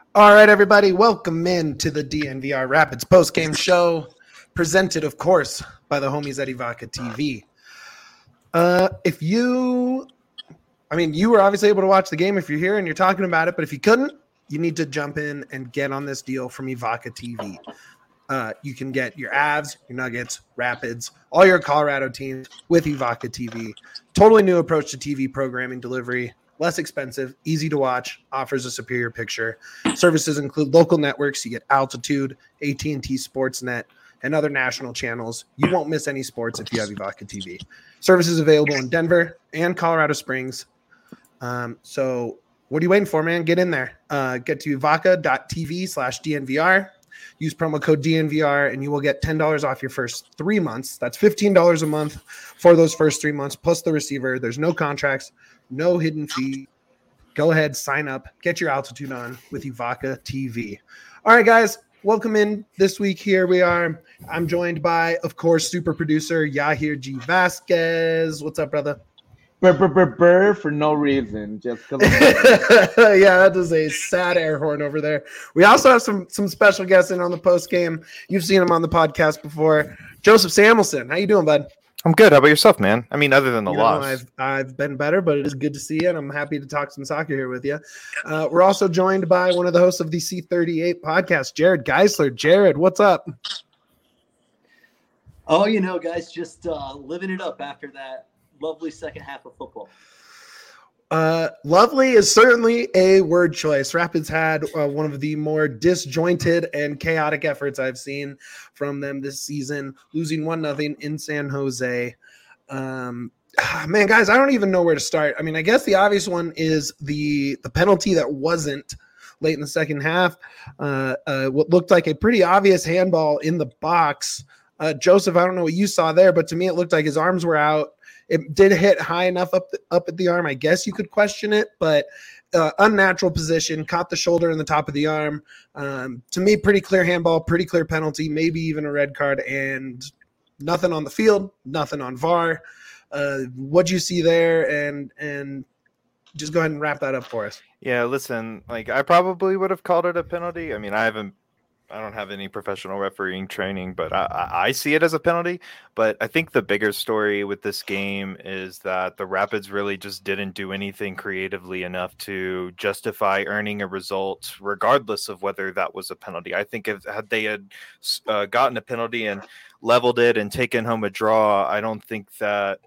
All right, everybody, welcome in to the DNVR Rapids post-game show, presented, of course, by the homies at Evoca TV. You were obviously able to watch the game if you're here and you're talking about it, but if you couldn't, you need to jump in and get on this deal from Evoca TV. You can get your Avs, your Nuggets, Rapids, all your Colorado teams with Evoca TV. Totally new approach to TV programming delivery. Less expensive, easy to watch, offers a superior picture. Services include local networks. You get Altitude, AT&T Sportsnet, and other national channels. You won't miss any sports if you have Evoca TV. Services available in Denver and Colorado Springs. So what are you waiting for, man? Get in there. Get to evoca.tv/DNVR. Use promo code DNVR, and you will get $10 off your first 3 months. That's $15 a month for those first 3 months, plus the receiver. There's no contracts, no hidden fee. Go ahead, sign up, get your altitude on with Evoca TV. All right, guys, welcome in this week. Here we are. I'm joined by, of course, super producer Yahir G. Vasquez. What's up, brother? For no reason, just because. Yeah, that is a sad air horn over there. We also have some special guests in on the post game. You've seen him on the podcast before. Joseph Samuelson, how you doing, bud? I'm good. How about yourself, man? I mean, other than the loss, I've been better, but it is good to see you, and I'm happy to talk some soccer here with you. We're also joined by one of the hosts of the C38 podcast, Jared Geisler. Jared, what's up? Oh, guys, just living it up after that lovely second half of football. Lovely is certainly a word choice. Rapids had one of the more disjointed and chaotic efforts I've seen from them this season, losing 1-0 in San Jose. Man, guys, I don't even know where to start. I mean, I guess the obvious one is the penalty that wasn't late in the second half. What looked like a pretty obvious handball in the box. Joseph, I don't know what you saw there, but to me it looked like his arms were out. It did hit high enough up at the arm. I guess you could question it, but unnatural position, caught the shoulder and the top of the arm. To me, pretty clear handball, pretty clear penalty, maybe even a red card, and nothing on the field, nothing on VAR. What'd you see there? And just go ahead and wrap that up for us. Yeah, listen, I probably would have called it a penalty. I mean, I don't have any professional refereeing training, but I see it as a penalty. But I think the bigger story with this game is that the Rapids really just didn't do anything creatively enough to justify earning a result, regardless of whether that was a penalty. I think had they gotten a penalty and leveled it and taken home a draw, I don't think that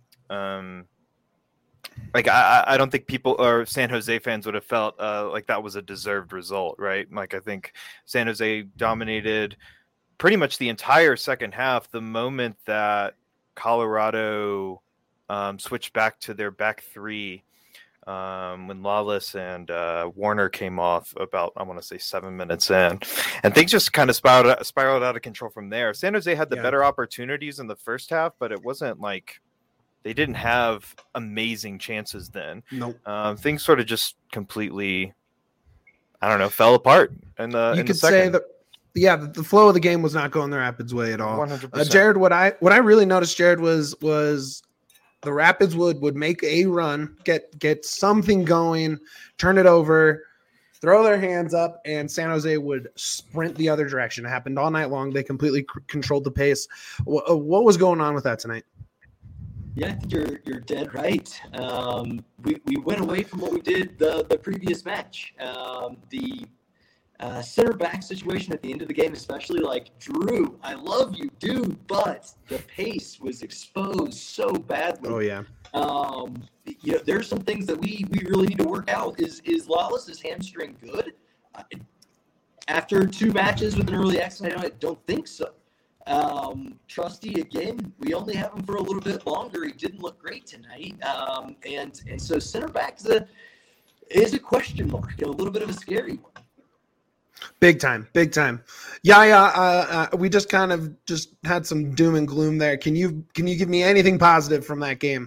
I don't think people or San Jose fans would have felt like that was a deserved result, right? I think San Jose dominated pretty much the entire second half. The moment that Colorado switched back to their back three, when Lawless and Warner came off about, I want to say 7 minutes in, and things just kind of spiraled out of control from there. San Jose had the better opportunities in the first half, but it wasn't like they didn't have amazing chances then. Nope. Things sort of just completely, fell apart. And you could say that, the flow of the game was not going the Rapids' way at all. 100%. Jared, what I really noticed, Jared, was the Rapids would make a run, get something going, turn it over, throw their hands up, and San Jose would sprint the other direction. It happened all night long. They completely controlled the pace. What was going on with that tonight? Yeah, I think you're dead right. We went away from what we did the previous match. The center back situation at the end of the game, especially, Drew, I love you, dude, but the pace was exposed so badly. Oh yeah. There's some things that we really need to work out. Is Lawless's hamstring good? After 2 matches with an early accident, I don't think so. Trusty, again, we only have him for a little bit longer. He didn't look great tonight. And so center back is a question mark, and a little bit of a scary one. Big time. Yeah. We just had some doom and gloom there. Can you give me anything positive from that game?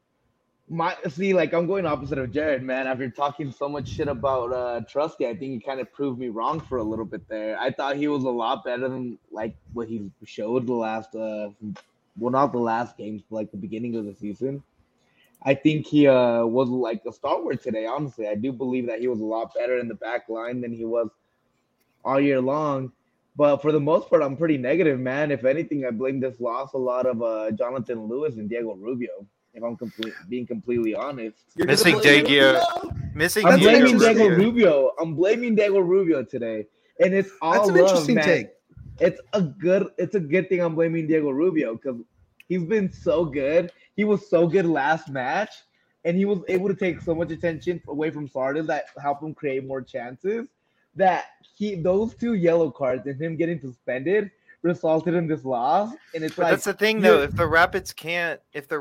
I'm going opposite of Jared, man. After talking so much shit about Trusty, I think he kind of proved me wrong for a little bit there. I thought he was a lot better than what he showed the last, not the last games, but the beginning of the season. I think he was like a stalwart today. Honestly, I do believe that he was a lot better in the back line than he was all year long. But for the most part, I'm pretty negative, man. If anything, I blame this loss a lot of Jonathan Lewis and Diego Rubio. If I'm being completely honest, Missing Diego. Missing I'm blaming Diego Diego Rubio. Rubio. I'm blaming Diego Rubio today, and it's all That's an love, interesting man. take. It's a good thing I'm blaming Diego Rubio because he's been so good. He was so good last match, and he was able to take so much attention away from Sardis that helped him create more chances. That those 2 yellow cards and him getting suspended resulted in this loss. And it's But like that's the thing, though. If the Rapids can't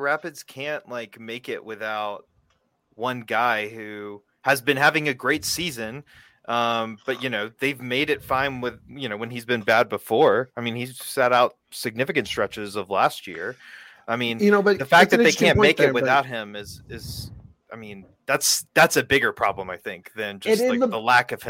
like make it without one guy who has been having a great season. But they've made it fine with when he's been bad before. I mean, he's sat out significant stretches of last year. I mean, but the fact it's an that they interesting can't point make there, it but- without him is I mean, that's a bigger problem, I think, than just It is like the lack of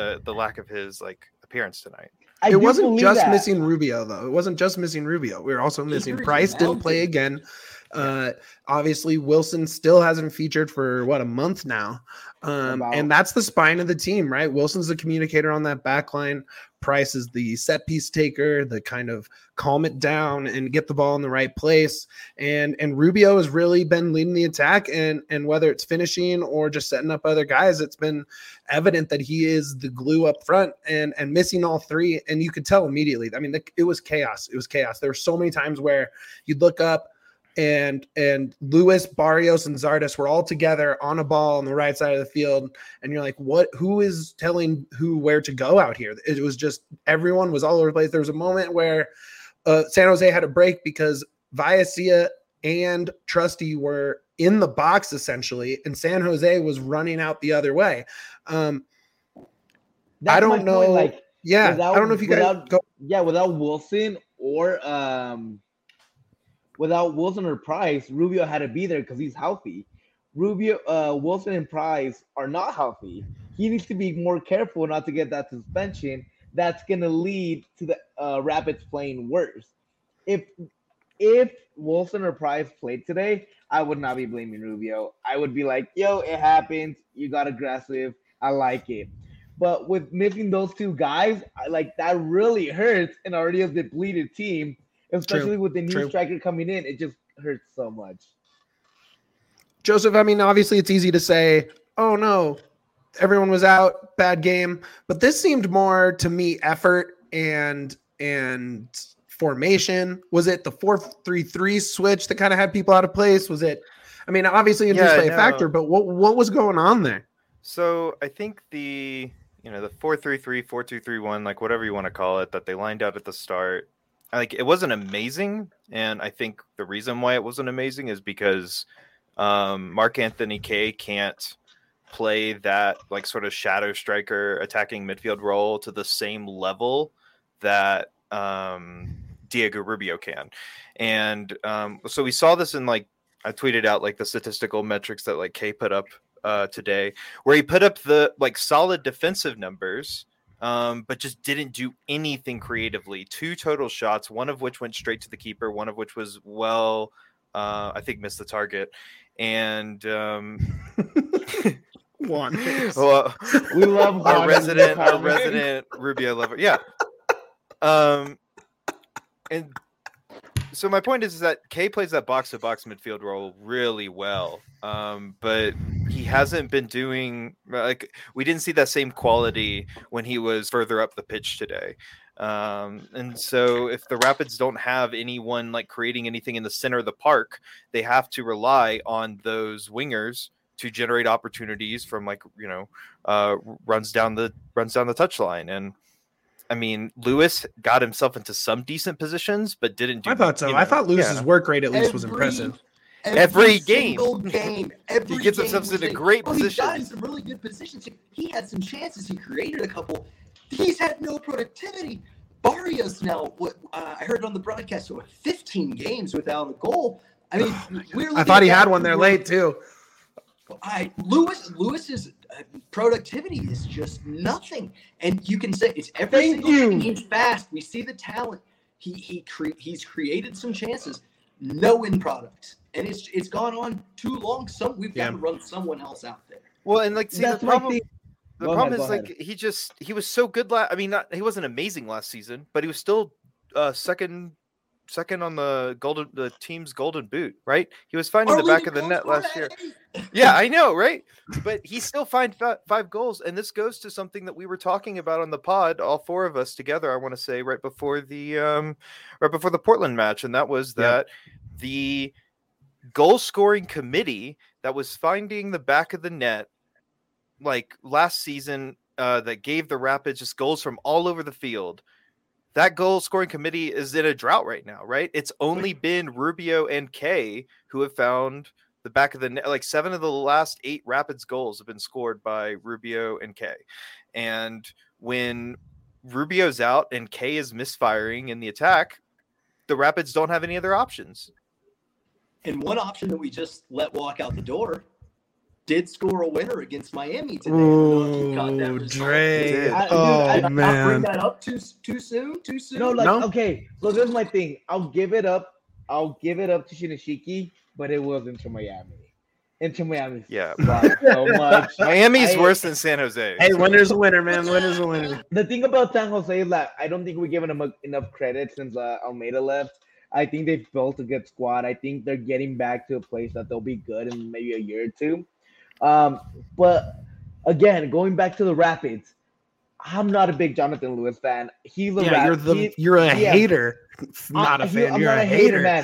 his like appearance tonight. I It do wasn't believe just that. missing Rubio, though. It wasn't just missing Rubio. We were also missing Injuries Price. Didn't mounted. play again. Obviously, Wilson still hasn't featured for a month now. And that's the spine of the team, right? Wilson's the communicator on that back line. Price is the set piece taker, the kind of calm it down and get the ball in the right place. And Rubio has really been leading the attack. And whether it's finishing or just setting up other guys, it's been evident that he is the glue up front and missing all 3. And you could tell immediately. I mean, it was chaos. It was chaos. There were so many times where you'd look up and Lewis, Barrios, and Zardes were all together on a ball on the right side of the field. And you're like, who is telling who where to go out here? It was just everyone was all over the place. There was a moment where San Jose had a break because Vallecilla and Trusty were in the box essentially, and San Jose was running out the other way. I don't know. Point, I don't know if you guys go. Yeah, without Wilson or Price, Rubio had to be there because he's healthy. Wilson and Price are not healthy. He needs to be more careful not to get that suspension. That's going to lead to the Rapids playing worse. If Wilson or Price played today, I would not be blaming Rubio. I would be like, yo, it happens. You got aggressive. I like it. But with missing those 2 guys, that really hurts an already a depleted team. Especially with the new striker coming in, it just hurts so much. Joseph, I mean, obviously it's easy to say, oh no, everyone was out, bad game. But this seemed more to me effort and formation. Was it the 4-3-3 switch that kind of had people out of place? Was it, I mean, obviously injuries play a factor, but what was going on there? So I think the 4-3-3, 4-2-3-1, like whatever you want to call it, that they lined out at the start, like it wasn't amazing, and I think the reason why it wasn't amazing is because Mark Anthony Kaye can't play that like sort of shadow striker attacking midfield role to the same level that Diego Rubio can, and so we saw this in I tweeted out the statistical metrics that Kaye put up today, where he put up the solid defensive numbers. But just didn't do anything creatively. 2 total shots, one of which went straight to the keeper, one of which was I think missed the target. And one. Well, we love our resident Rubio lover. Yeah. And so my point is that Kaye plays that box-to-box midfield role really well, but he hasn't been doing we didn't see that same quality when he was further up the pitch today. And so if the Rapids don't have anyone creating anything in the center of the park, they have to rely on those wingers to generate opportunities from runs down the touchline. And I mean, Lewis got himself into some decent positions, but didn't do. I thought so. I thought Lewis's work rate at least was impressive. Every game. He gets himself in a great position. He got in some really good positions. He had some chances. He created a couple. He's had no productivity. Barrios now, I heard on the broadcast, 15 games without a goal. I mean, I thought he had one there late too. Lewis's productivity is just nothing, and you can say it's every single thing. He's fast. We see the talent. He's created some chances, no end product, and it's gone on too long. We've got to run someone else out there. Well, and like, see, That's the my problem. thing. The Go problem ahead, is go like he was so good. I mean, he wasn't amazing last season, but he was still second on the team's golden boot, right? He was finding the back of the net last year. Yeah, I know, right? But he still find 5 goals, and this goes to something that we were talking about on the pod, all 4 of us together. I want to say right before the Portland match, and that was that the goal scoring committee that was finding the back of the net, like last season, that gave the Rapids just goals from all over the field. That goal scoring committee is in a drought right now, right? It's only been Rubio and Kay who have found the back of the net. Like 7 of the last 8 Rapids goals have been scored by Rubio and Kay. And when Rubio's out and Kay is misfiring in the attack, the Rapids don't have any other options. And one option that we just let walk out the door did score a winner against Miami today. Ooh, Dre. I'll man. bring that up too soon? No, No. okay. So this is my thing. I'll give it up to Shinashiki, but it was Inter Miami. Inter Miami. Yeah. So much. Miami's worse than San Jose. Hey, winner's a winner, man. Winner's a winner. The thing about San Jose is that I don't think we're giving them enough credit since Almeida left. I think they've built a good squad. I think they're getting back to a place that they'll be good in maybe a year or two. But again, going back to the Rapids, I'm not a big Jonathan Lewis fan. He's a you're a hater, not a fan. I'm you're not a hater, man.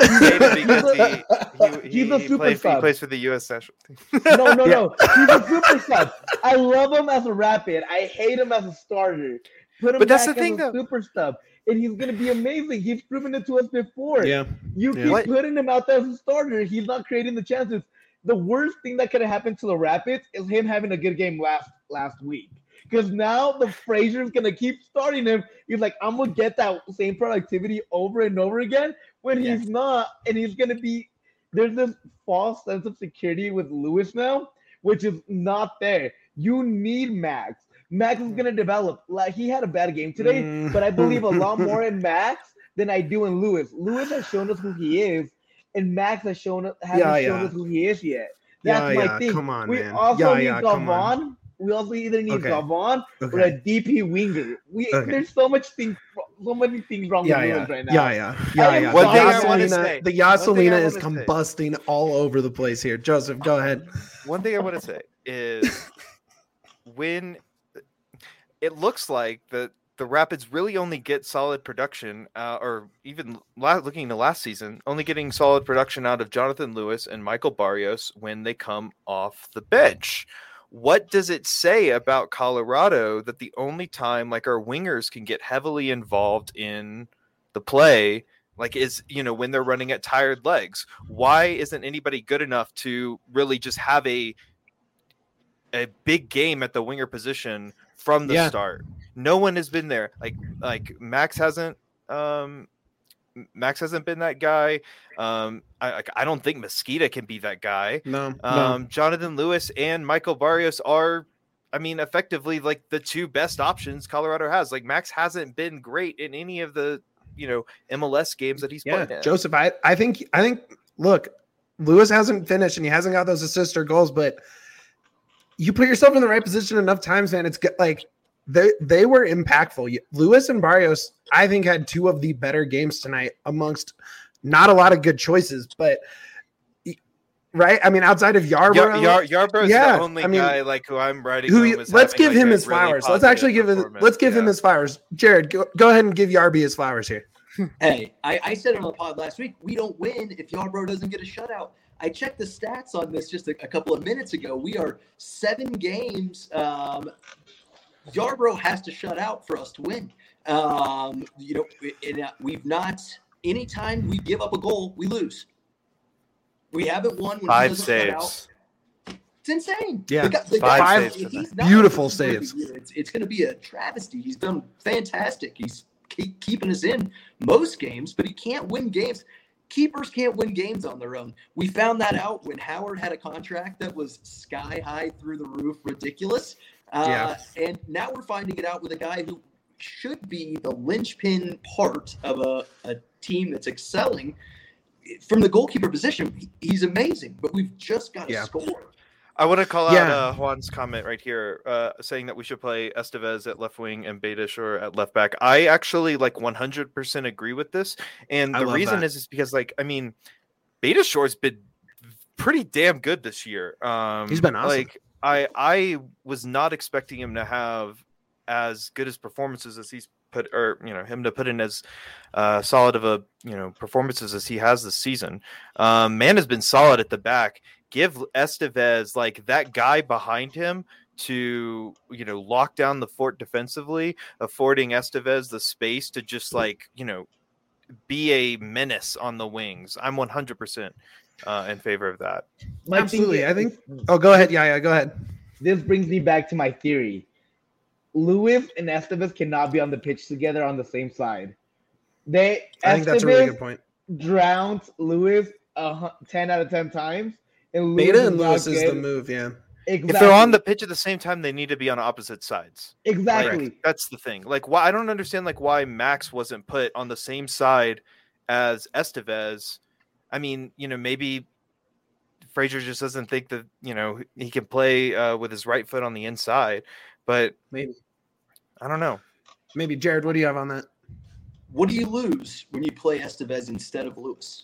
He's a super sub. He plays for the U.S. national team. No. He's a super sub. I love him as a Rapid. I hate him as a starter. Put him But that's back the thing, as a though. super sub, and he's gonna be amazing. He's proven it to us before. Yeah. You keep putting him out there as a starter. He's not creating the chances. The worst thing that could have happened to the Rapids is him having a good game last week. Because now the Frazier's gonna keep starting him. He's like, I'm gonna get that same productivity over and over again when he's not, and he's gonna be. There's this false sense of security with Lewis now, which is not there. You need Max. Max is gonna develop. Like he had a bad game today, but I believe a lot more in Max than I do in Lewis. Lewis has shown us who he is, and Max has hasn't shown us who he is yet. That's my thing. Come on, we man. also need Gavon. We also either need Gavon or a DP winger. There's so many things wrong with Lewis right now. Yeah. One thing I want to say. The Yaselina is combusting all over the place here. Joseph, go ahead. One thing I want to say is when it looks like the Rapids really only get solid production, or even looking into last season, only getting solid production out of Jonathan Lewis and Michael Barrios when they come off the bench. What does it say about Colorado that the only time like our wingers can get heavily involved in the play, like is, when they're running at tired legs? Why isn't anybody good enough to really just have a big game at the winger position from the start? No one has been there. Like Max hasn't been that guy. I don't think Mosqueda can be that guy. No. Jonathan Lewis and Michael Barrios are, effectively like the 2 best options Colorado has. Like Max hasn't been great in any of the, MLS games that he's played in. Joseph, I think, look, Lewis hasn't finished and he hasn't got those assists or goals, but you put yourself in the right position enough times, man. It's like they were impactful. Lewis and Barrios, I think, had 2 of the better games tonight amongst not a lot of good choices, but right. Outside of Yarbrough, Yarbrough's the only guy like who I'm writing. Let's give him his flowers. Let's actually give him his flowers. Jared, go ahead and give Yarby his flowers here. Hey, I said it on the pod last week. We don't win if Yarbrough doesn't get a shutout. I checked the stats on this just a couple of minutes ago. We are 7 games. Yarbrough has to shut out for us to win. We've not. Anytime we give up a goal, we lose. We haven't won when 5 he doesn't saves. shut out. It's insane. Yeah, the 5 saves. Beautiful saves. It's going to be a travesty. He's done fantastic. He's keeping us in most games, but he can't win games. Keepers can't win games on their own. We found that out when Howard had a contract that was sky high, through the roof, ridiculous. And now we're finding it out with a guy who should be the linchpin part of a team that's excelling. from the goalkeeper position, he's amazing, but we've just got to score. I want to call out Juan's comment right here, saying that we should play Estevez at left wing and Beitashour at left back. I actually 100% agree with this, and the reason is because Beitashour's been pretty damn good this year. He's been awesome. I was not expecting him to have as good as performances as he's him to put in as solid of a performances as he has this season. Man has been solid at the back. Give Estevez that guy behind him to lock down the fort defensively, affording Estevez the space to just be a menace on the wings. I'm 100% in favor of that. Absolutely. I think. Oh, go ahead. Yeah, go ahead. This brings me back to my theory. Lewis and Estevez cannot be on the pitch together on the same side. I think that's a really good point. Drowned Lewis 10 out of 10 times. And Beta and Lewis is the move, yeah. Exactly. If they're on the pitch at the same time, they need to be on opposite sides. Exactly. That's the thing. Why I don't understand why Max wasn't put on the same side as Estevez. I mean, maybe Fraser just doesn't think that he can play with his right foot on the inside, but maybe I don't know. Maybe Jared, what do you have on that? What do you lose when you play Estevez instead of Lewis?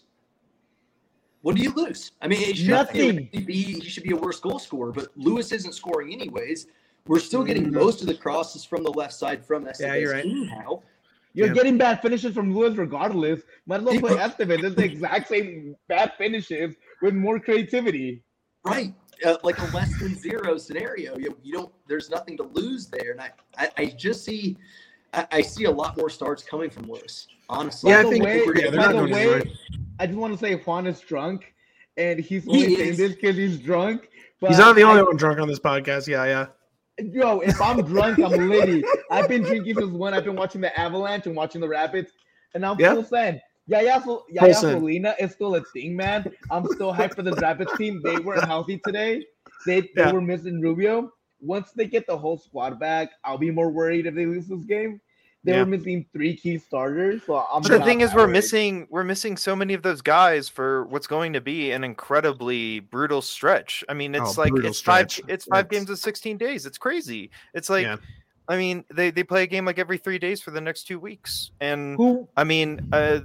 What do you lose? I mean, nothing. He should be a worse goal scorer, but Lewis isn't scoring anyways. We're still getting most of the crosses from the left side from Estevez. Yeah, you're right. Anyhow. You're getting bad finishes from Lewis regardless. Might as well play Estevez. It's the exact same bad finishes with more creativity. Right. Like a less than zero scenario. You don't. There's nothing to lose there. And I just see I see a lot more starts coming from Lewis. Honestly. Yeah, by the way, right. I just want to say Juan is drunk, and he's only saying this because he's drunk. But he's not the only one drunk on this podcast. Yeah. Yo, if I'm drunk, I'm litty. I've been drinking since when I've been watching the Avalanche and watching the Rapids, and I'm full send. Yaya Molina is still a thing, man. I'm still hyped for the Rapids team. They weren't healthy today. They were missing Rubio. Once they get the whole squad back, I'll be more worried if they lose this game. They were missing 3 key starters. So the thing is, we're missing so many of those guys for what's going to be an incredibly brutal stretch. I mean, it's it's 5 games in 16 days. It's crazy. It's I mean, they play a game every 3 days for the next 2 weeks. And I mean,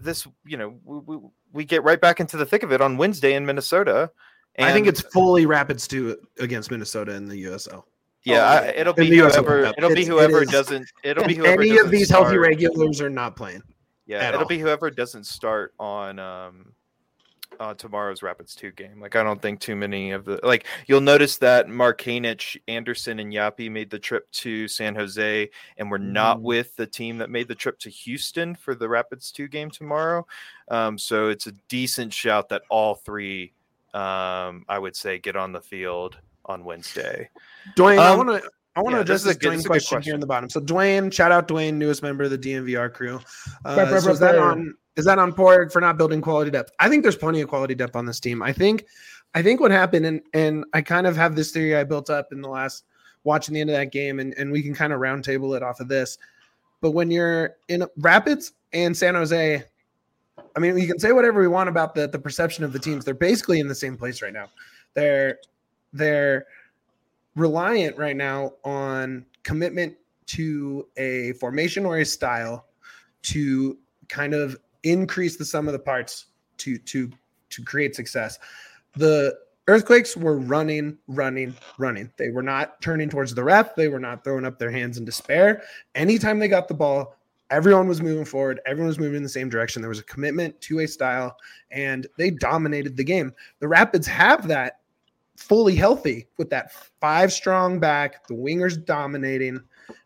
we get right back into the thick of it on Wednesday in Minnesota. And I think it's fully Rapids 2 against Minnesota in the USL. Yeah, it'll be whoever. It'll be whoever doesn't. It'll be whoever. Any of these healthy regulars are not playing. Yeah, it'll be whoever doesn't start on tomorrow's Rapids 2 game. I don't think too many of the You'll notice that Markanich, Anderson, and Yapi made the trip to San Jose, and we're not with the team that made the trip to Houston for the Rapids 2 game tomorrow. So it's a decent shout that all 3, I would say, get on the field on Wednesday. Dwayne, I want to address this Dwayne question here in the bottom. So Dwayne, shout out Dwayne, newest member of the DNVR crew. So is that on Porg for not building quality depth? I think there's plenty of quality depth on this team. I think what happened, and I kind of have this theory I built up in the last watching the end of that game, and we can kind of roundtable it off of this. But when you're in Rapids and San Jose, I mean, you can say whatever we want about the perception of the teams. They're basically in the same place right now. They're reliant right now on commitment to a formation or a style to kind of increase the sum of the parts to create success. The Earthquakes were running. They were not turning towards the ref. They were not throwing up their hands in despair. Anytime they got the ball, everyone was moving forward. Everyone was moving in the same direction. There was a commitment to a style, and they dominated the game. The Rapids have that fully healthy with that 5-strong back, the wingers dominating,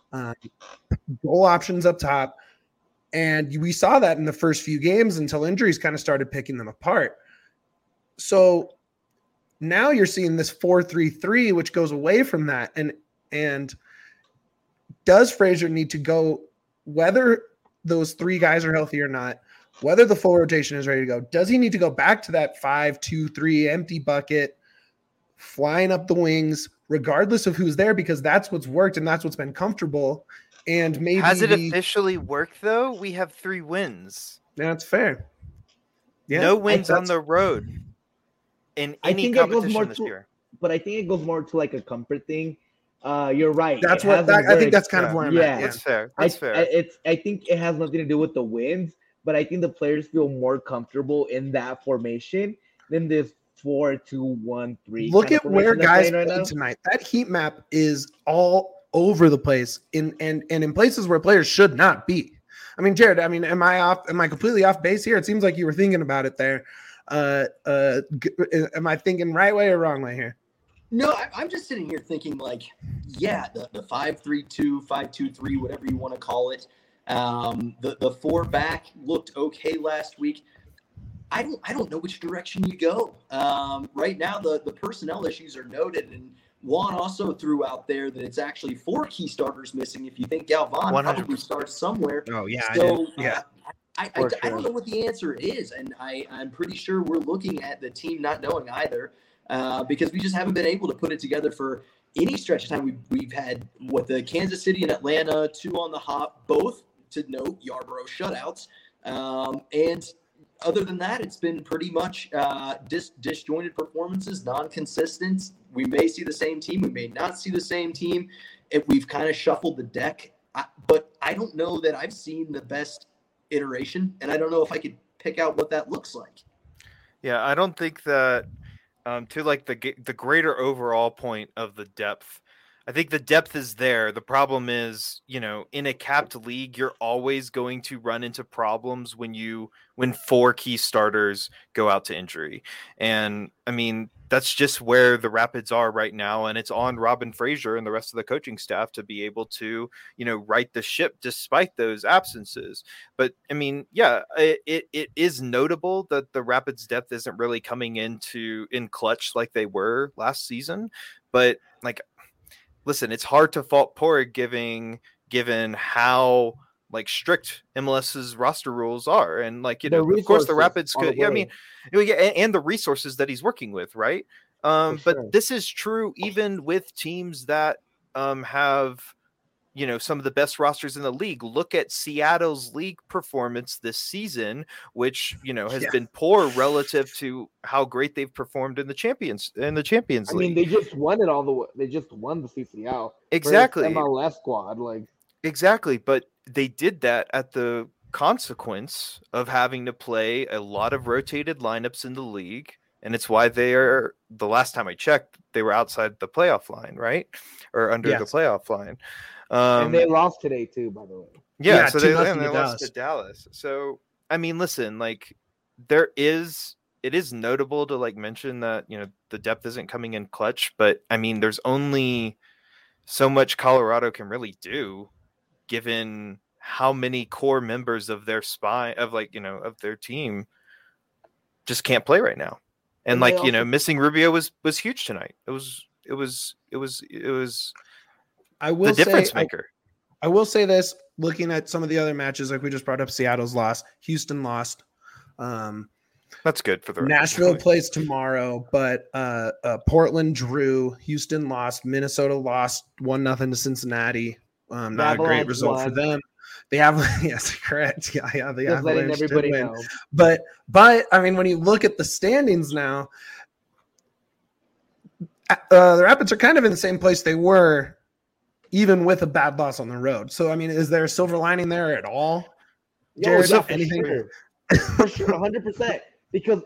goal options up top. And we saw that in the first few games until injuries kind of started picking them apart. So now you're seeing this 4-3-3, which goes away from that. And does Fraser need to go, whether those 3 guys are healthy or not, whether the full rotation is ready to go, does he need to go back to that 5-2-3 empty bucket, flying up the wings, regardless of who's there, because that's what's worked and that's what's been comfortable. And maybe has it officially worked though? We have 3 wins. That's fair. Yeah, no wins on that's- the road in I any think it goes competition more this to- year. But I think it goes more to like a comfort thing. You're right. That's it what hasn't I think. worked. That's kind of Yeah. where I'm Yeah. at. Yeah. That's fair. That's fair. I think it has nothing to do with the wins, but I think the players feel more comfortable in that formation than this 4-2-1-3. Look kind of at where formation they're guys playing played now. tonight. That heat map is all over the place and in places where players should not be. I mean, Jared, am I completely off base here? It seems like you were thinking about it there. Am I thinking right way or wrong way here? No, I'm just sitting here thinking like, yeah, the 5-3-2, 5-2-3, whatever you want to call it. The four back looked okay last week. I don't know which direction you go. Right now, the personnel issues are noted, and Juan also threw out there that it's actually 4 key starters missing. If you think Galvan 100%. probably starts somewhere. Oh yeah, So yeah. I don't know what the answer is, and I'm pretty sure we're looking at the team not knowing either, because we just haven't been able to put it together for any stretch of time. We've had the Kansas City and Atlanta 2 on the hop, both to note Yarborough shutouts, and other than that, it's been pretty much disjointed performances, non-consistent. We may see the same team. We may not see the same team. We've kind of shuffled the deck, but I don't know that I've seen the best iteration, and I don't know if I could pick out what that looks like. Yeah, I don't think that to like the greater overall point of the depth. I think the depth is there. The problem is, in a capped league, you're always going to run into problems when 4 key starters go out to injury. And I mean, that's just where the Rapids are right now. And it's on Robin Fraser and the rest of the coaching staff to be able to, right the ship despite those absences. But I mean, yeah, it is notable that the Rapids depth isn't really coming in clutch like they were last season. But like, listen, it's hard to fault Porig given how strict MLS's roster rules are, and of course the Rapids could. Yeah, I mean, and the resources that he's working with, right? But this is true even with teams that have some of the best rosters in the league. Look at Seattle's league performance this season, which has been poor relative to how great they've performed in the Champions League. I mean, they just won it all the way. They just won the CCL. Exactly. MLS squad, exactly, but they did that at the consequence of having to play a lot of rotated lineups in the league. And it's why the last time I checked, they were outside the playoff line, right? Or under the playoff line. And they lost today too, by the way. Yeah, so they lost to Dallas. So I mean, listen, it is notable to mention that the depth isn't coming in clutch, but I mean, there's only so much Colorado can really do, given how many core members of their of their team just can't play right now, and missing Rubio was huge tonight. It was. I will the difference maker. I will say this: looking at some of the other matches, like we just brought up, Seattle's lost, Houston lost. That's good for the Nashville plays tomorrow, but Portland drew, Houston lost, Minnesota lost 1-0 to Cincinnati. Not a great result for them. They have yes, correct. Yeah, the just letting Avalanche everybody did win. know. But I mean, when you look at the standings now, the Rapids are kind of in the same place they were, even with a bad loss on the road. So I mean, is there a silver lining there at all? Jared, anything? For sure, 100%. Because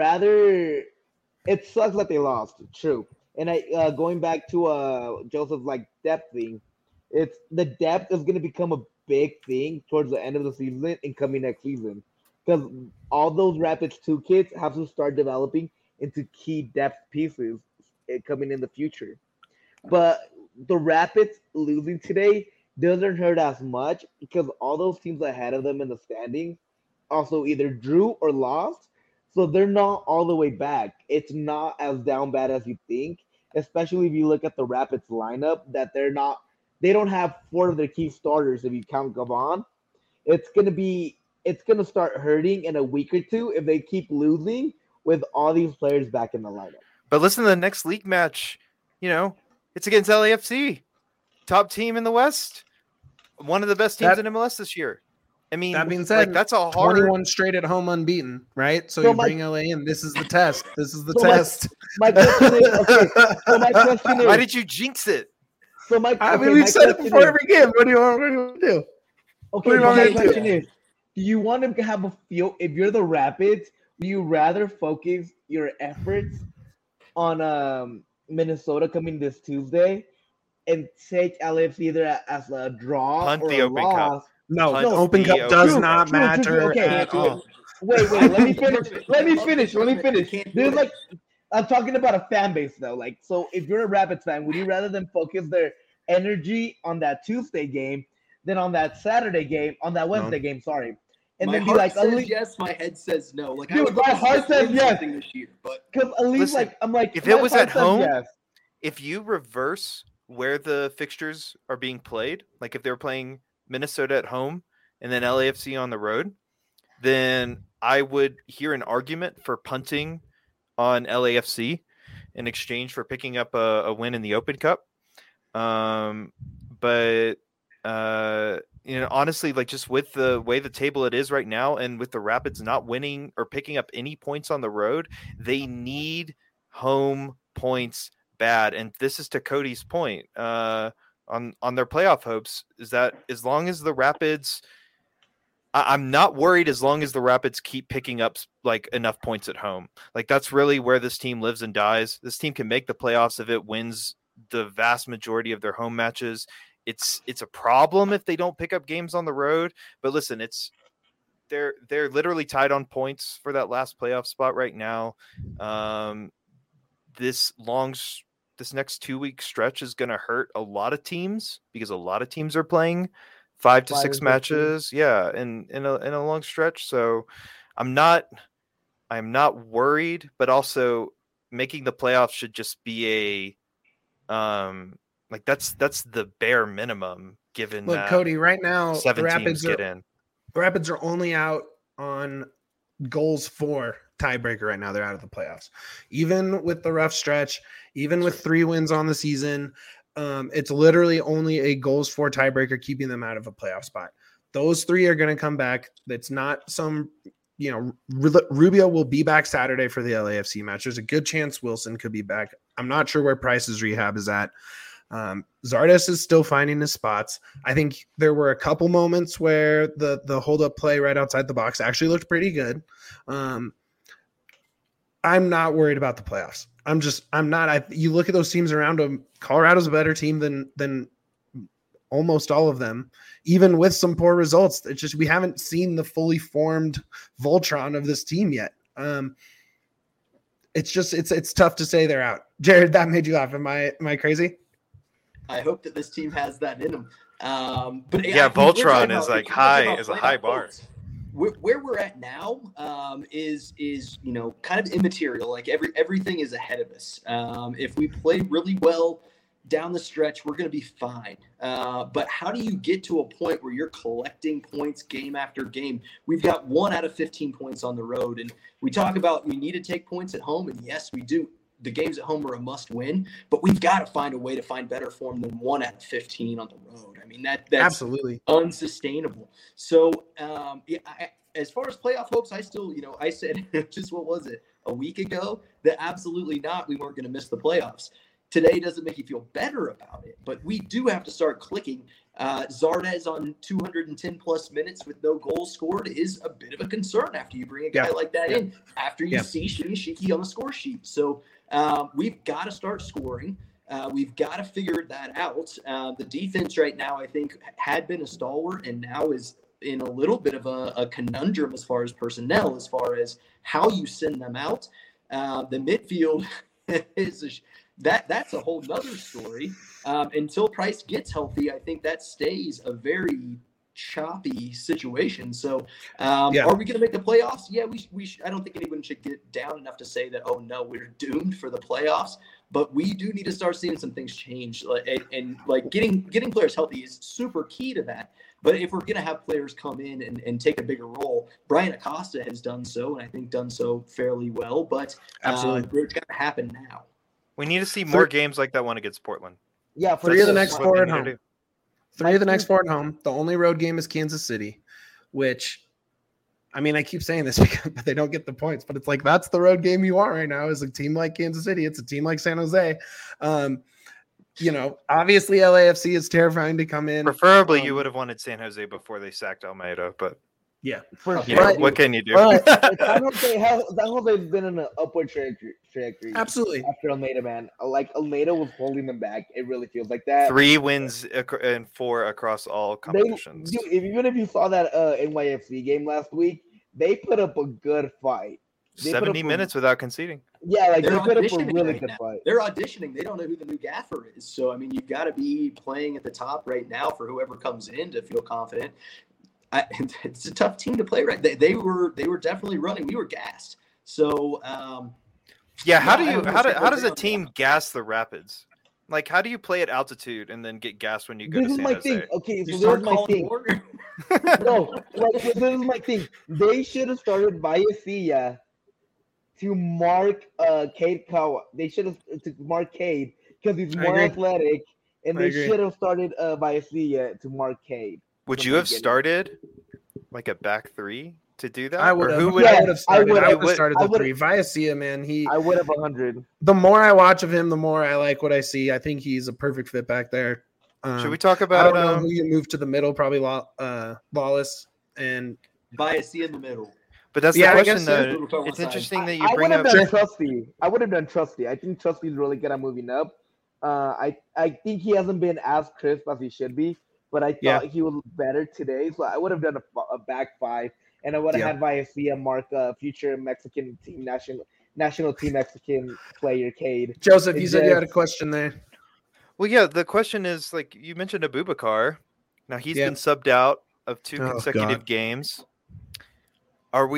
it sucks that they lost, true. And going back to Joseph's depth thing, it's the depth is going to become a big thing towards the end of the season and coming next season, because all those Rapids 2 kids have to start developing into key depth pieces coming in the future. But the Rapids losing today doesn't hurt as much because all those teams ahead of them in the standings also either drew or lost. So they're not all the way back. It's not as down bad as you think, especially if you look at the Rapids lineup, that they don't have 4 of their key starters if you count Gavon. It's gonna start hurting in a week or two if they keep losing with all these players back in the lineup. But listen to the next league match, it's against LAFC, top team in the West, one of the best teams in MLS this year. I mean, That being said, that's a hard 21 straight at home unbeaten, right? So you bring LA in. This is the test. This is the test. My question is, okay. So my question is, why did you jinx it? So we've said it before every game. What do you want to do? Okay, my question is, do you want to have a feel? If you're the Rapids, do you rather focus your efforts on Minnesota coming this Tuesday and take LAFC either as a draw Punt or the a Open loss? Cup. No, Punt Open the Cup Open does Cup. not matter Okay, at all. Wait, let me finish. Let me finish. There's like, I'm talking about a fan base though. Like, so if you're a Rapids fan, would you rather them focus their energy on that Tuesday game than on that Saturday game, on that Wednesday game? Sorry, and my then be heart like, says yes, my head says no. Like, dude, I would my love to heart see us says win yes. something this year, but because at least Listen, I'm like, if my it was heart at says home, yes. if you reverse where the fixtures are being played, like if they were playing Minnesota at home and then LAFC on the road, then I would hear an argument for punting on LAFC in exchange for picking up a win in the Open Cup. But honestly, like just with the way the table it is right now, and with the Rapids not winning or picking up any points on the road, they need home points bad. And this is to Cody's point on their playoff hopes, is that as long as the Rapids, I'm not worried as long as the Rapids keep picking up like enough points at home. Like that's really where this team lives and dies. This team can make the playoffs if it wins the vast majority of their home matches. It's a problem if they don't pick up games on the road. But listen, they're literally tied on points for that last playoff spot right now. This next 2-week stretch is going to hurt a lot of teams because a lot of teams are playing 5 to 6 matches. Yeah. In a long stretch. So I'm not worried, but also making the playoffs should just be like that's the bare minimum given Look, that Cody, right now, 7 the teams get in. The Rapids are only out on goals for tiebreaker right now. They're out of the playoffs. Even with the rough stretch, even with 3 wins on the season, it's literally only a goals for tiebreaker keeping them out of a playoff spot. Those 3 are going to come back. That's not some, Rubio will be back Saturday for the LAFC match. There's a good chance Wilson could be back. I'm not sure where Price's rehab is at. Zardes is still finding his spots. I think there were a couple moments where the hold up play right outside the box actually looked pretty good. I'm not worried about the playoffs. I'm not. You look at those teams around them. Colorado's a better team than almost all of them, even with some poor results. It's just we haven't seen the fully formed Voltron of this team yet. It's tough to say they're out. Jared, that made you laugh. Am I crazy? I hope that this team has that in them. But yeah, Voltron is like is a high bar. Where we're at now is kind of immaterial. Like everything is ahead of us. If we play really well down the stretch, we're going to be fine. But how do you get to a point where you're collecting points game after game? We've got 1 out of 15 points on the road, and we talk about we need to take points at home, and yes, we do. The games at home are a must win, but we've got to find a way to find better form than 1 out of 15 on the road. I mean, that's absolutely unsustainable. So, as far as playoff hopes, I still, I said just what was it a week ago that absolutely not. We weren't going to miss the playoffs. Today doesn't make you feel better about it, but we do have to start clicking. Zardes on 210 plus minutes with no goals scored is a bit of a concern after you bring a guy like that in, after you see Shiki on the score sheet. So we've got to start scoring. We've got to figure that out. The defense right now, I think, had been a stalwart and now is in a little bit of a conundrum as far as personnel, as far as how you send them out. The midfield is that's a whole nother story. Until Price gets healthy, I think that stays a very choppy situation. So are we going to make the playoffs? Yeah, we I don't think anyone should get down enough to say that, oh no, we're doomed for the playoffs, but we do need to start seeing some things change. And getting players healthy is super key to that. But if we're going to have players come in and take a bigger role, Brian Acosta has done so, and I think done so fairly well, but absolutely, it's got to happen now. We need to see more games like that one against Portland. Yeah, 3 of the next 4 at home. 3 of the next 4 at home. The only road game is Kansas City. which, I mean, I keep saying this because they don't get the points, but it's like that's the road game you want right now is a team like Kansas City. It's a team like San Jose. Obviously LAFC is terrifying to come in. Preferably, you would have wanted San Jose before they sacked Almeida, but yeah, what can you do? San Jose's been in an upward trajectory. Absolutely. After Almeida, man, like Almeida was holding them back. It really feels like that. 3 wins and 4 across all competitions. Even if you saw that NYFC game last week, they put up a good fight. 70 minutes without conceding. Yeah, like They're they put up a auditioning really right good now. fight. They're auditioning. They don't know who the new gaffer is. So, I mean, you've got to be playing at the top right now for whoever comes in to feel confident. It's a tough team to play, right? They were definitely running. We were gassed. So, how does a team gas the Rapids? Like, how do you play at altitude and then get gassed when you go to San Jose? Thing. Okay, so you this is my calling thing. No, this is my thing. They should have started Vallecilla to mark Cade Kawa. They should have to mark Cade because he's more athletic, and they should have started Vallecilla to mark Cade. Would you have started like a back 3 to do that? I would have. I would have started the 3. Vallecilla, man, I would have 100. The more I watch of him, the more I like what I see. I think he's a perfect fit back there. Should we talk about? I don't know who you move to the middle. Probably Lawless and Vallecilla in the middle. But that's the question, though. It's interesting that you bring up. Trusty. I would have done Trusty. I think Trusty's really good at moving up. I think he hasn't been as crisp as he should be, but I thought he was better today. So I would have done a back 5, and I would have had Vallecilla mark future Mexican team national team Mexican player Cade. Joseph, you said you had a question there. Well, yeah, the question is, like, you mentioned Abubakar. Now he's been subbed out of 2 consecutive games. After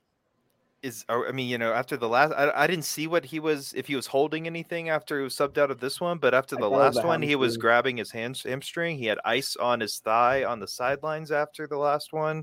the last, I didn't see what he was, if he was holding anything after he was subbed out of this one, but after the last one, he was grabbing his hamstring. He had ice on his thigh on the sidelines after the last one.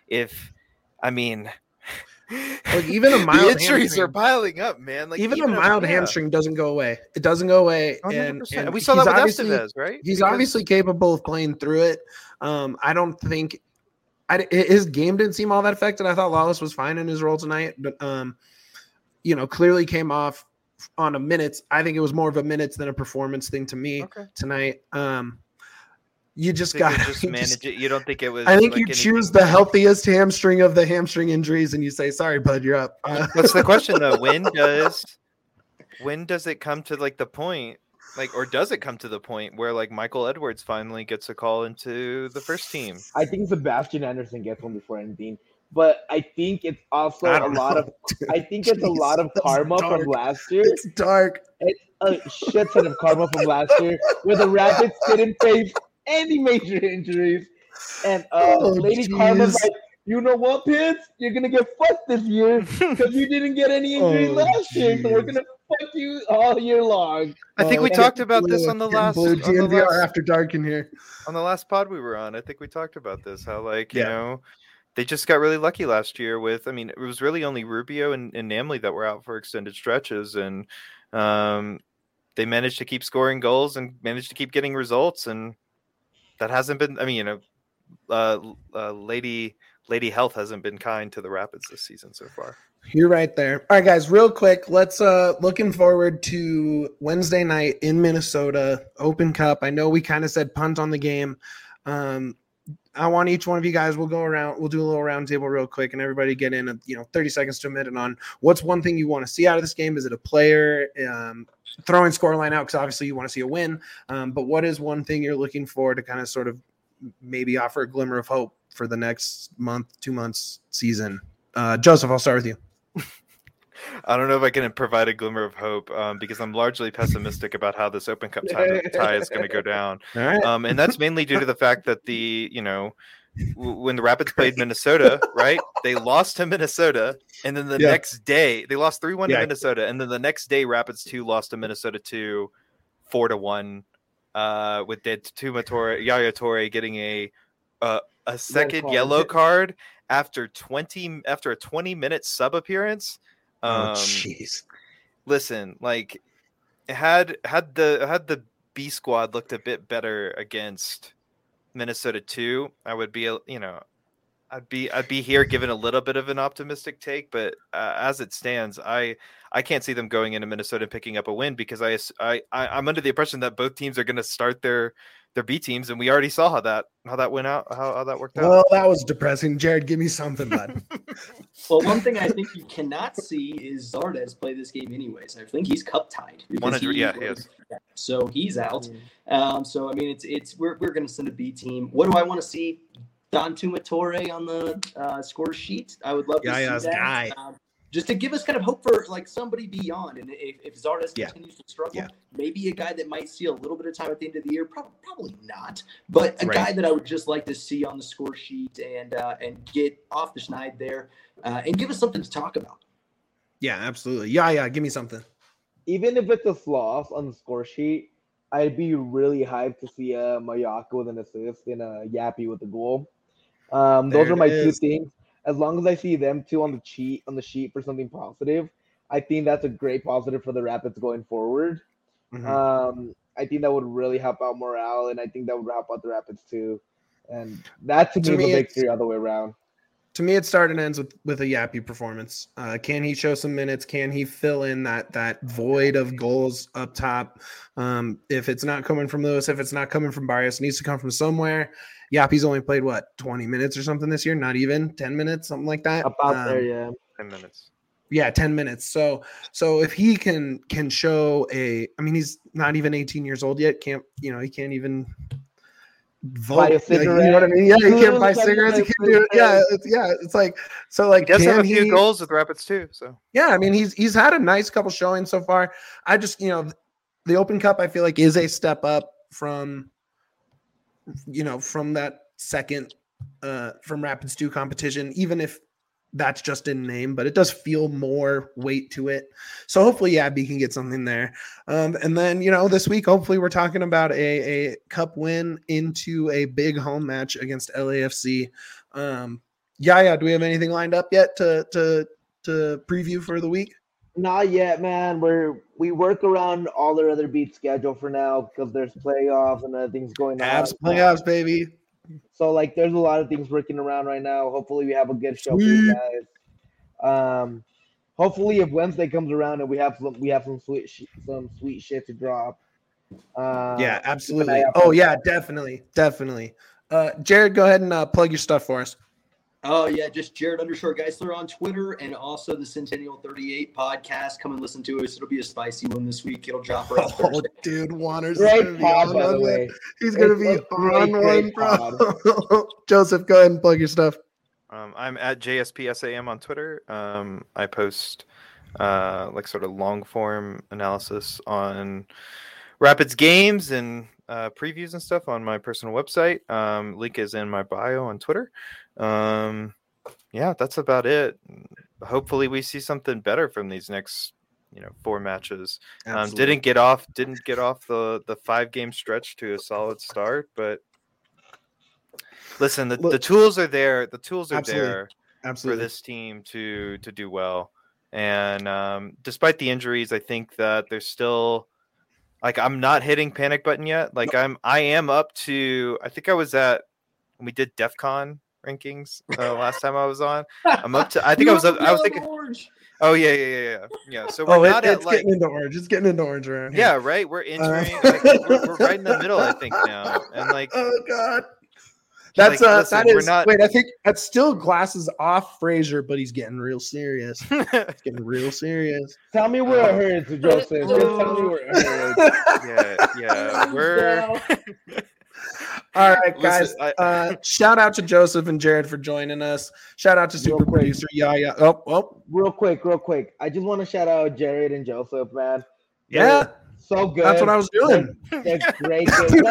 Like even a mild the injuries are piling up, man. Like even a mild hamstring doesn't go away. It doesn't go away. And we saw that with Estevez, right? He's obviously capable of playing through it. I don't think his game didn't seem all that affected. I thought Lawless was fine in his role tonight, but clearly came off on a minutes. I think it was more of a minutes than a performance thing to me tonight. You just got to manage it. You don't think it was? I think you choose the healthiest hamstring of the hamstring injuries, and you say, "Sorry, bud, you're up." What's the question though? When does it come to like the point, like, or does it come to the point where like Michael Edwards finally gets a call into the first team? I think Sebastian Anderson gets one before anything, but I think it's also a lot of karma from last year. It's dark. It's a shit ton of karma from last year where the Rapids didn't face any major injuries, and Lady Karma's like, you know what, Pitts? You're gonna get fucked this year because you didn't get any injuries last year, so we're gonna fuck you all year long. I think we talked about this on the last After Dark in here. On the last pod we were on, I think we talked about this. How they just got really lucky last year with. I mean, it was really only Rubio and Namely that were out for extended stretches, and they managed to keep scoring goals and managed to keep getting results, and that hasn't been. I mean, Lady Health hasn't been kind to the Rapids this season so far. You're right there. All right, guys, real quick. Let's looking forward to Wednesday night in Minnesota, Open Cup. I know we kind of said punt on the game. I want each one of you guys, we'll go around, we'll do a little round table real quick, and everybody get in 30 seconds to a minute on what's one thing you want to see out of this game. Is it a player? Throwing scoreline out because obviously you want to see a win. But what is one thing you're looking for to kind of sort of maybe offer a glimmer of hope for the next month, 2 months season? Joseph, I'll start with you. I don't know if I can provide a glimmer of hope because I'm largely pessimistic about how this Open Cup tie is going to go down. All right. And that's mainly due to the fact that when the Rapids played Minnesota, right? They lost to Minnesota, and then the next day they lost 3-1 to Minnesota, and then the next day Rapids 2 lost to Minnesota 2, 4-1, with Yaya Toure getting a second yellow card after a 20-minute sub appearance. Jeez. Listen, like had the B squad looked a bit better against Minnesota 2, I would be, I'd be here giving a little bit of an optimistic take, but as it stands, I can't see them going into Minnesota and picking up a win because I'm under the impression that both teams are going to start their B teams, and we already saw how that went out, how that worked out. Well, that was depressing. Jared, give me something, bud. Well, one thing I think you cannot see is Zardes play this game anyways. I think he's cup tied. 100, he is. So he's out. So I mean, it's we're going to send a B team. What do I want to see? Don Tumatore on the score sheet. I would love to see that. Guy. Just to give us kind of hope for like somebody beyond. And if Zardes continues to struggle, maybe a guy that might see a little bit of time at the end of the year, probably not. But a guy that I would just like to see on the score sheet and get off the schneid there and give us something to talk about. Yeah, absolutely. Yeah, give me something. Even if it's a loss on the score sheet, I'd be really hyped to see Mayaka with an assist and a Yappy with a goal. Those are my two things. As long as I see them two on the sheet for something positive, I think that's a great positive for the Rapids going forward. Mm-hmm. I think that would really help out morale, and I think that would help out the Rapids too. And that to me is a big three all the way around. To me, it starts and ends with a Yappy performance. Can he show some minutes? Can he fill in that void of goals up top? If it's not coming from Lewis, if it's not coming from Barrios, it needs to come from somewhere. Yappy's only played, 20 minutes or something this year? Not even 10 minutes, something like that. About there, yeah. 10 minutes. Yeah, 10 minutes. So if he can show he's not even 18 years old yet. He can't even vote. Buy a cigarette. You know what I mean? Yeah, he can't buy cigarettes. He can't do it. It's like so. Like, he does have a few goals with Rapids too. So yeah, I mean, he's had a nice couple showings so far. I just the Open Cup I feel like is a step up from that second from Rapids 2 competition, even if that's just in name, but it does feel more weight to it. So hopefully Yabby can get something there. And then, this week, hopefully we're talking about a cup win into a big home match against LAFC. Do we have anything lined up yet to preview for the week? Not yet, man. We work around all their other beat schedule for now because there's playoffs and other things going on. Playoffs, baby. So there's a lot of things working around right now. Hopefully we have a good show for you guys. Hopefully if Wednesday comes around and we have some sweet shit to drop. Yeah, absolutely. Oh yeah, definitely. Jared, go ahead and plug your stuff for us. Oh, yeah, just Jared_Geisler on Twitter and also the Centennial 38 podcast. Come and listen to us. It'll be a spicy one this week. It'll drop around Thursday. Dude, Wanners is going to be on by the way. He's going to be on one, bro. Joseph, go ahead and plug your stuff. I'm at JSPSAM on Twitter. I post sort of long form analysis on Rapids games and previews and stuff on my personal website. Link is in my bio on Twitter. That's about it. Hopefully we see something better from these next 4 matches. Didn't get off the 5-game stretch to a solid start, but listen, the tools are there. The tools are there for this team to do well. And despite the injuries, I think that there's still I'm not hitting panic button yet. I am up to, I think I was at, when we did DEF CON rankings last time I was on. I'm up to, I think I was thinking orange. Oh yeah. So we're not it's getting into orange. It's getting into orange right here. Yeah, right. We're entering we're right in the middle, I think now. And oh god. That's wait, I think that's still glasses off Fraser, but he's getting real serious. He's getting real serious. Tell me where it hurts, Joseph. Just tell me where it hurts. Yeah. We're all right, guys. Shout out to Joseph and Jared for joining us. Shout out to super producer Yaya. Oh. Real quick. I just want to shout out Jared and Joseph, man. Yeah. So good. That's what I was doing. They're great.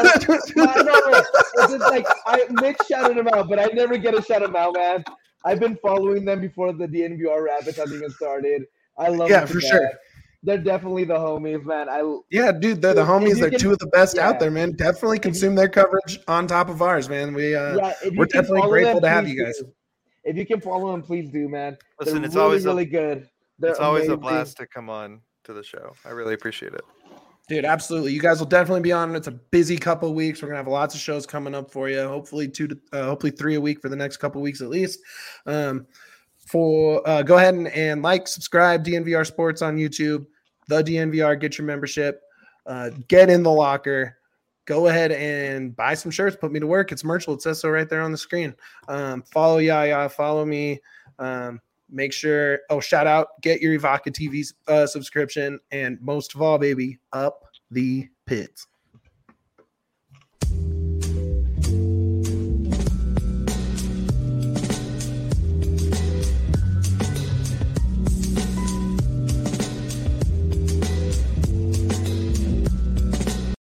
Mitch shouted them out, but I never get to shout them out, man. I've been following them before the DNVR Rapids has even started. I love them. Yeah, for sure. They're definitely the homies, man. Dude, they're the homies. They're two of the best out there, man. Definitely consume their coverage on top of ours, man. We're definitely grateful to have you guys. If you can follow them, please do, man. Listen, it's really, always really good. It's always a blast to come on to the show. I really appreciate it. Dude, absolutely. You guys will definitely be on. It's a busy couple of weeks. We're gonna have lots of shows coming up for you. Hopefully hopefully 3 a week for the next couple of weeks at least. Go ahead and like, subscribe, DNVR Sports on YouTube, the DNVR. Get your membership. Get in the locker. Go ahead and buy some shirts. Put me to work. It's merchable. It says so right there on the screen. Follow Yaya. Follow me. Make sure, shout out, get your Evoca TV subscription, and most of all, baby, up the pits.